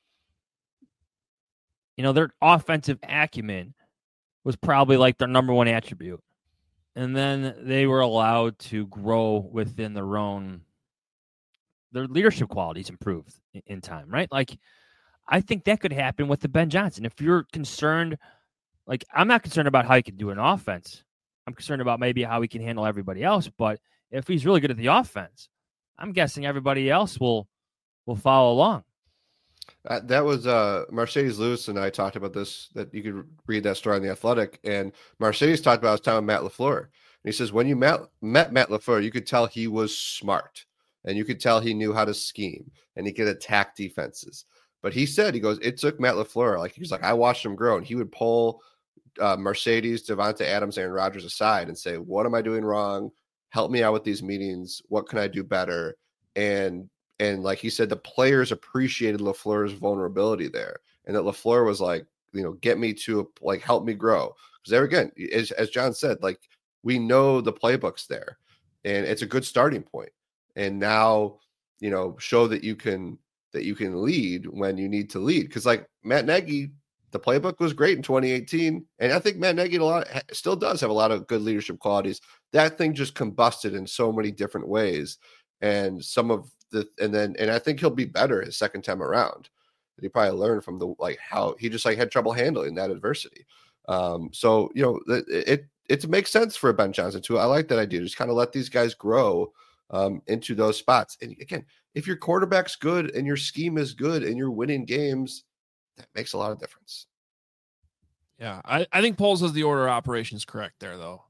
Their offensive acumen was probably their number one attribute. And then they were allowed to grow within their leadership qualities improved in time, right? I think that could happen with the Ben Johnson. If you're concerned, I'm not concerned about how he can do an offense. I'm concerned about maybe how he can handle everybody else. But if he's really good at the offense, I'm guessing everybody else will follow along. That was Mercedes Lewis and I talked about this, that you could read that story on The Athletic. And Mercedes talked about his time with Matt LaFleur. And he says, when you met Matt LaFleur, you could tell he was smart and you could tell he knew how to scheme and he could attack defenses. But he said, it took Matt LaFleur. He's I watched him grow, and he would pull Mercedes, Devonta Adams, Aaron Rodgers aside and say, what am I doing wrong? Help me out with these meetings. What can I do better? And like he said, the players appreciated LaFleur's vulnerability there. And that LaFleur was get me to help me grow. Because there again, as John said, we know the playbooks there. And it's a good starting point. And now, show that you can that you can lead when you need to lead. Because like Matt Nagy, the playbook was great in 2018, and I think Matt Nagy still does have a lot of good leadership qualities. That thing just combusted in so many different ways, and I think he'll be better his second time around. He probably learned from how he just had trouble handling that adversity. So it makes sense for Ben Johnson too. I like that idea. Just kind of let these guys grow into those spots. And again, if your quarterback's good and your scheme is good and you're winning games, that makes a lot of difference. Yeah, I think Poles has the order of operations correct there, though.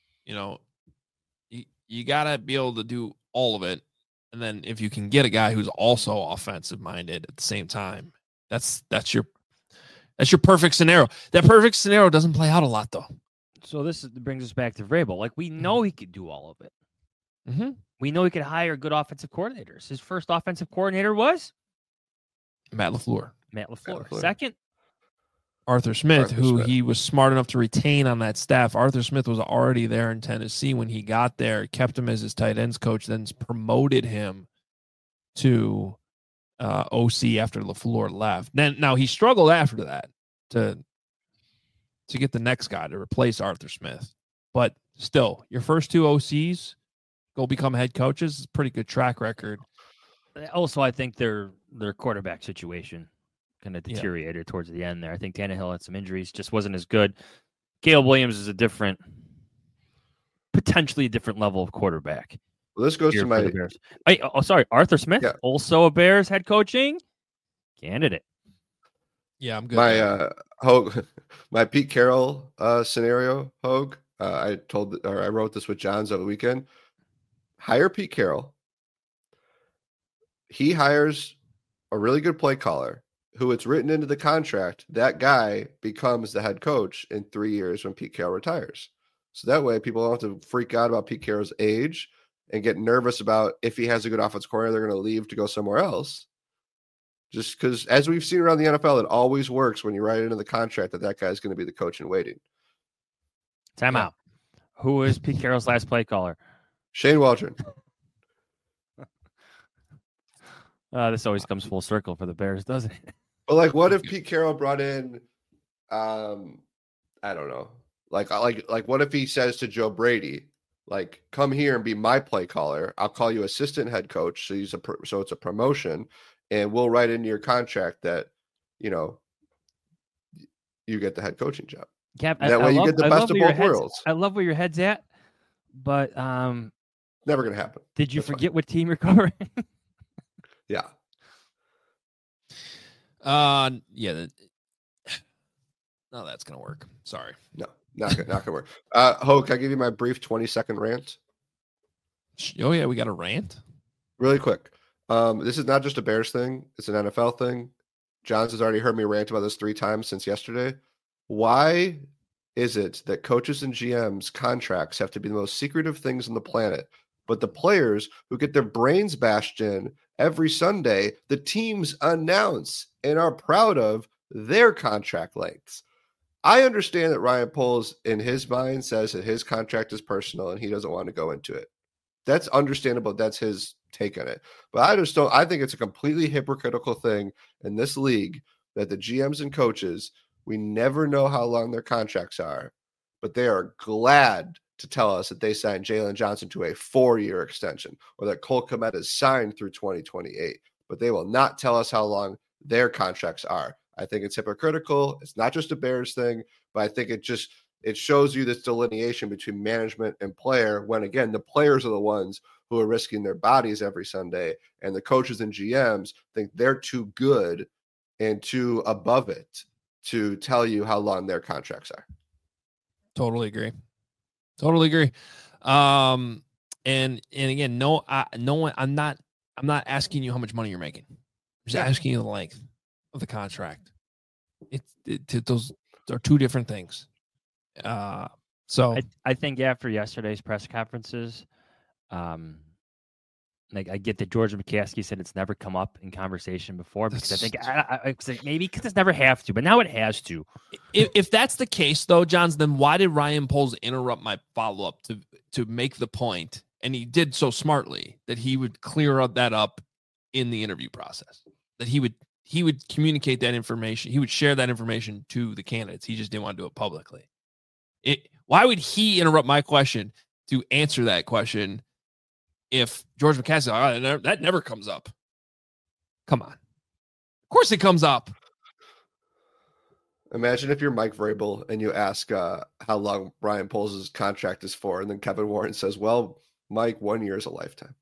You got to be able to do all of it. And then if you can get a guy who's also offensive minded at the same time, that's your perfect scenario. That perfect scenario doesn't play out a lot, though. So this brings us back to Vrabel. Like, we know he could do all of it. Mm-hmm. We know he could hire good offensive coordinators. His first offensive coordinator was Matt LaFleur. Second, Arthur Smith, he was smart enough to retain on that staff. Arthur Smith was already there in Tennessee when he got there, kept him as his tight ends coach, then promoted him to OC after LaFleur left. Now he struggled after that to get the next guy to replace Arthur Smith. But still, your first two OCs go become head coaches. It's a pretty good track record. Also, I think their quarterback situation kind of deteriorated towards the end there. I think Tannehill had some injuries, just wasn't as good. Caleb Williams is potentially a different level of quarterback. Well, this goes to my Bears. Arthur Smith, also a Bears head coaching candidate. Yeah, I'm good. My Pete Carroll scenario, Hogue. I wrote this with Johns over the weekend. Hire Pete Carroll. He hires a really good play caller who it's written into the contract. That guy becomes the head coach in 3 years when Pete Carroll retires. So that way people don't have to freak out about Pete Carroll's age and get nervous about if he has a good offensive coordinator, they're going to leave to go somewhere else. Just because, as we've seen around the NFL, it always works when you write it into the contract that guy's going to be the coach in waiting. Time out. Who is Pete Carroll's last play caller? Shane Waldron. This always comes full circle for the Bears, doesn't it? But what if Pete Carroll brought in, I don't know, like what if he says to Joe Brady, come here and be my play caller. I'll call you assistant head coach. So it's a promotion, and we'll write into your contract that, you get the head coaching job. Cap, that way you get the best of both worlds. I love where your head's at, but never going to happen. Did you forget what team you're covering? Yeah. Yeah. No, that's gonna work. Sorry. No, not gonna work. Hogue, can I give you my brief 20-second rant? Oh yeah, we got a rant. Really quick. This is not just a Bears thing; it's an NFL thing. Johns has already heard me rant about this 3 times since yesterday. Why is it that coaches and GMs' contracts have to be the most secretive things on the planet, but the players who get their brains bashed in every Sunday, the teams announce and are proud of their contract lengths? I understand that Ryan Poles, in his mind, says that his contract is personal and he doesn't want to go into it. That's understandable. That's his take on it. But I think it's a completely hypocritical thing in this league that the GMs and coaches, we never know how long their contracts are, but they are glad to tell us that they signed Jalen Johnson to a 4-year extension, or that Cole Kmet is signed through 2028, but they will not tell us how long their contracts are. I think it's hypocritical. It's not just a Bears thing, but I think it shows you this delineation between management and player, when again, the players are the ones who are risking their bodies every Sunday, and the coaches and GMs think they're too good and too above it to tell you how long their contracts are. Totally agree. And again, I'm not asking you how much money you're making. I'm just asking you the length of the contract. Those are 2 different things. So I think after yesterday's press conferences, I get that George McCaskey said it's never come up in conversation before, because I think maybe because it's never have to, but now it has to. If that's the case, though, Johns, then why did Ryan Poles interrupt my follow-up to make the point, and he did so smartly, that he would clear that up in the interview process? that he would communicate that information. He would share that information to the candidates. He just didn't want to do it publicly. Why would he interrupt my question to answer that question if George McCaskey, that never comes up? Come on. Of course it comes up. Imagine if you're Mike Vrabel and you ask how long Ryan Poles' contract is for, and then Kevin Warren says, well, Mike, 1 year is a lifetime.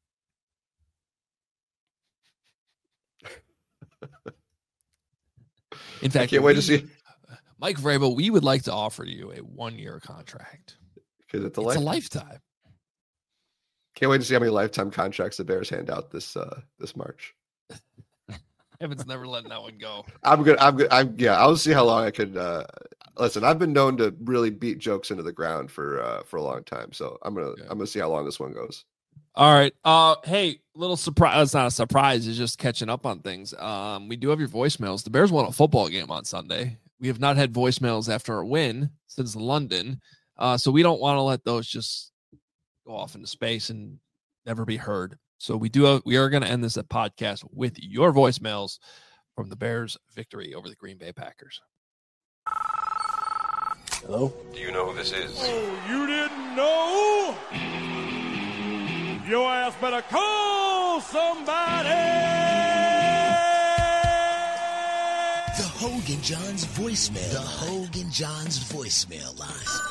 In fact, I can't wait to see. Mike Vrabel, we would like to offer you a 1 year contract. Because it's a lifetime. Can't wait to see how many lifetime contracts the Bears hand out this March. Evan's never letting that one go. I'm good. I'll see how long I could. Listen, I've been known to really beat jokes into the ground for a long time, so I'm gonna see how long this one goes. All right. Hey, little surprise. It's not a surprise. It's just catching up on things. We do have your voicemails. The Bears won a football game on Sunday. We have not had voicemails after a win since London, so we don't want to let those just go off into space and never be heard. So we are going to end this podcast with your voicemails from the Bears' victory over the Green Bay Packers. Hello? Do you know who this is? Oh, you didn't know? Your ass better call somebody! The Hogan Johns voicemail. The Hogan Johns voicemail line.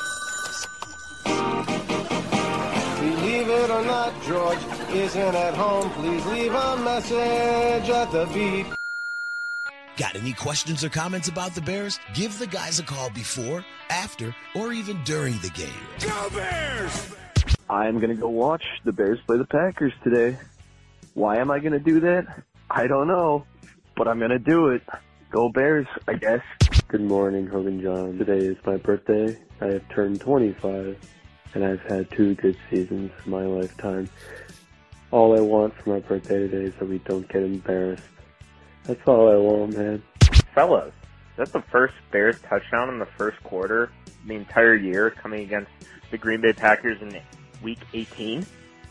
Believe it or not, George isn't at home. Please leave a message at the beep. Got any questions or comments about the Bears? Give the guys a call before, after, or even during the game. Go Bears! I'm going to go watch the Bears play the Packers today. Why am I going to do that? I don't know, but I'm going to do it. Go Bears, I guess. Good morning, Hogan John. Today is my birthday. I have turned 25, and I've had 2 good seasons in my lifetime. All I want for my birthday today is that we don't get embarrassed. That's all I want, man. Fellas, that's the first Bears touchdown in the first quarter the entire year coming against the Green Bay Packers in Week 18.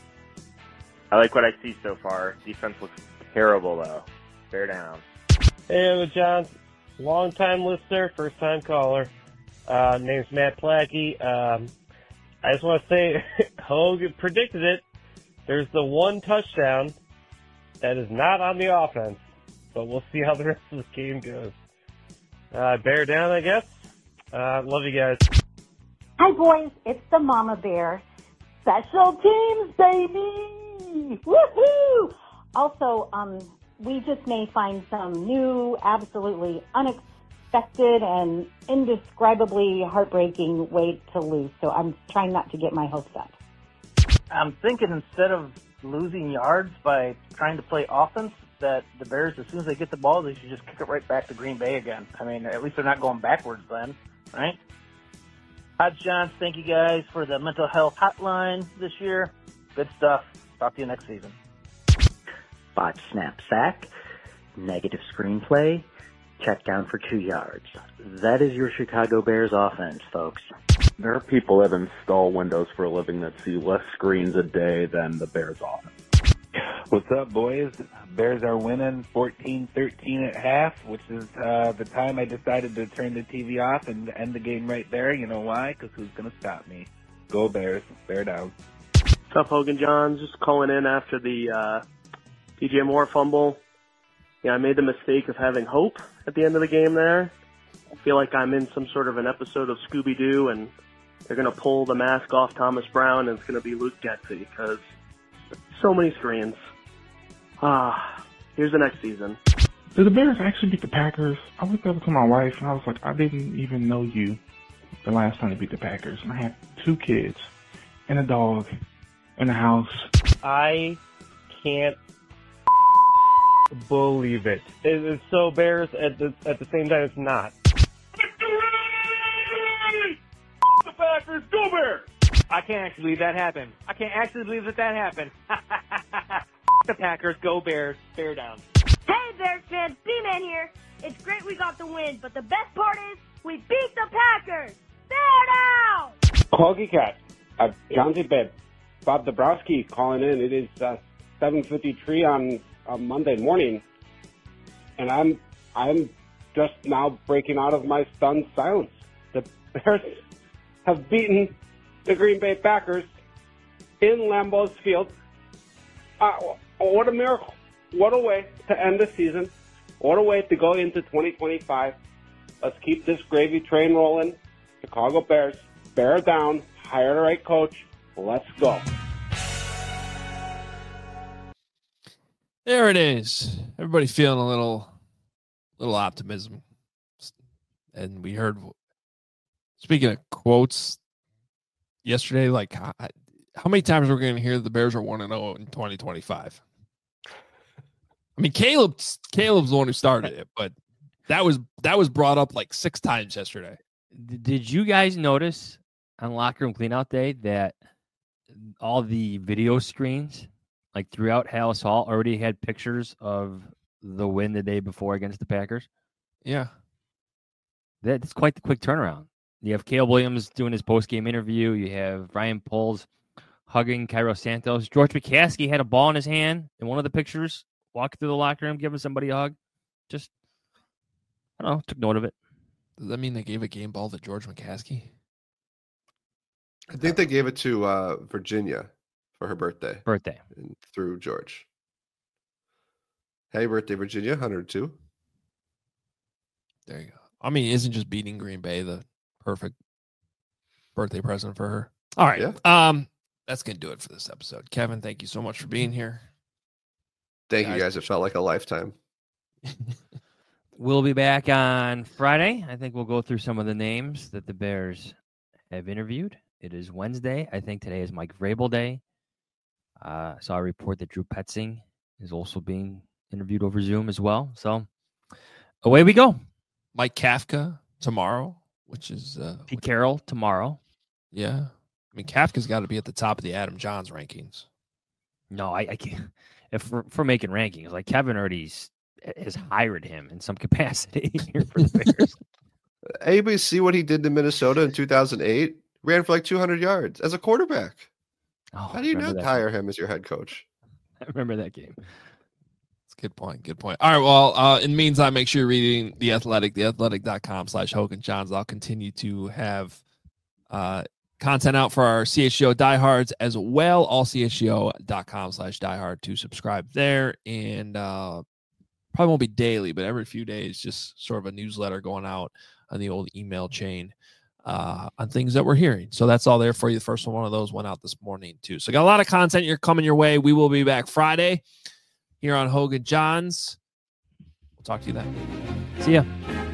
I like what I see so far. Defense looks terrible, though. Bear down. Hey, Hogan John. Long-time listener, first-time caller. Name's Matt Plackey. I just want to say, Hogan predicted it. There's the one touchdown that is not on the offense, but we'll see how the rest of the game goes. Bear down, I guess. Love you guys. Hi, boys. It's the Mama Bear. Special teams, baby! Woohoo! Also, we just may find some new, absolutely unexpected and indescribably heartbreaking way to lose. So I'm trying not to get my hopes up. I'm thinking instead of losing yards by trying to play offense, that the Bears, as soon as they get the ball, they should just kick it right back to Green Bay again. I mean, at least they're not going backwards then, right? Hodge Johns, thank you guys for the mental health hotline this year. Good stuff. Talk to you next season. Botch snap sack, negative screenplay, check down for 2 yards. That is your Chicago Bears offense, folks. There are people that install Windows for a living that see less screens a day than the Bears offense. What's up, boys? Bears are winning 14-13 at half, which is the time I decided to turn the TV off and end the game right there. You know why? Because who's going to stop me? Go Bears. Bear down. What's up, Hogan John? Just calling in after the DJ Moore fumble. Yeah, I made the mistake of having hope at the end of the game there. I feel like I'm in some sort of an episode of Scooby-Doo, and they're going to pull the mask off Thomas Brown, and it's going to be Luke Getsy, because so many screens. Here's the next season. Did the Bears actually beat the Packers? I looked over to my wife, and I was like, I didn't even know you the last time they beat the Packers. And I had 2 kids and a dog in the house. I can't believe it. It is so Bears at the same time it's not. The Packers, go Bears! I can't actually believe that happened. I can't actually believe that happened. The Packers, go Bears, bear down. Hey Bears fans, B-Man here. It's great we got the win, but the best part is we beat the Packers. Bear down! Hoggy Cat, John's bed. Bob Dabrowski calling in. It is 7:53 on Monday morning, and I'm just now breaking out of my stunned silence. The Bears have beaten the Green Bay Packers in Lambeau Field. What a miracle. What a way to end the season. What a way to go into 2025. Let's keep this gravy train rolling. Chicago Bears, bear down, hire the right coach. Let's go. There it is. Everybody feeling a little optimism. And we heard, speaking of quotes, yesterday, like how many times are we going to hear the Bears are 1-0 in 2025? I mean, Caleb's the one who started it, but that was brought up like 6 times yesterday. Did you guys notice on Locker Room Cleanout Day that all the video screens, like throughout Hallis Hall, already had pictures of the win the day before against the Packers? Yeah. That's quite the quick turnaround. You have Caleb Williams doing his post-game interview. You have Ryan Poles hugging Cairo Santos. George McCaskey had a ball in his hand in one of the pictures, walking through the locker room, giving somebody a hug. Just, I don't know, took note of it. Does that mean they gave a game ball to George McCaskey? I think they gave it to Virginia for her birthday. And through George. Happy birthday, Virginia, 102. There you go. I mean, isn't just beating Green Bay the perfect birthday present for her? All right. Yeah. That's going to do it for this episode. Kevin, thank you so much for being here. Thank you, guys. It felt like a lifetime. We'll be back on Friday. I think we'll go through some of the names that the Bears have interviewed. It is Wednesday. I think today is Mike Vrabel Day. I saw a report that Drew Petzing is also being interviewed over Zoom as well. So away we go. Mike Kafka tomorrow, which is Pete Carroll tomorrow. Yeah. I mean, Kafka's got to be at the top of the Adam Johns rankings. No, I can't. If we're making rankings, like Kevin already has hired him in some capacity here for the Bears. Anybody see what he did to Minnesota in 2008? Ran for like 200 yards as a quarterback. Oh, how do you not hire him as your head coach? I remember that game. That's a good point. Good point. All right. Well, in the meantime, make sure you're reading The Athletic, theathletic.com/Hogan Johns. I'll continue to have content out for our CHGO diehards as well. All CHGO.com/diehard to subscribe there. And probably won't be daily, but every few days, just sort of a newsletter going out on the old email chain on things that we're hearing. So that's all there for you. The first one of those went out this morning too. So got a lot of content coming your way. We will be back Friday here on Hogan Johns. We'll talk to you then. See ya.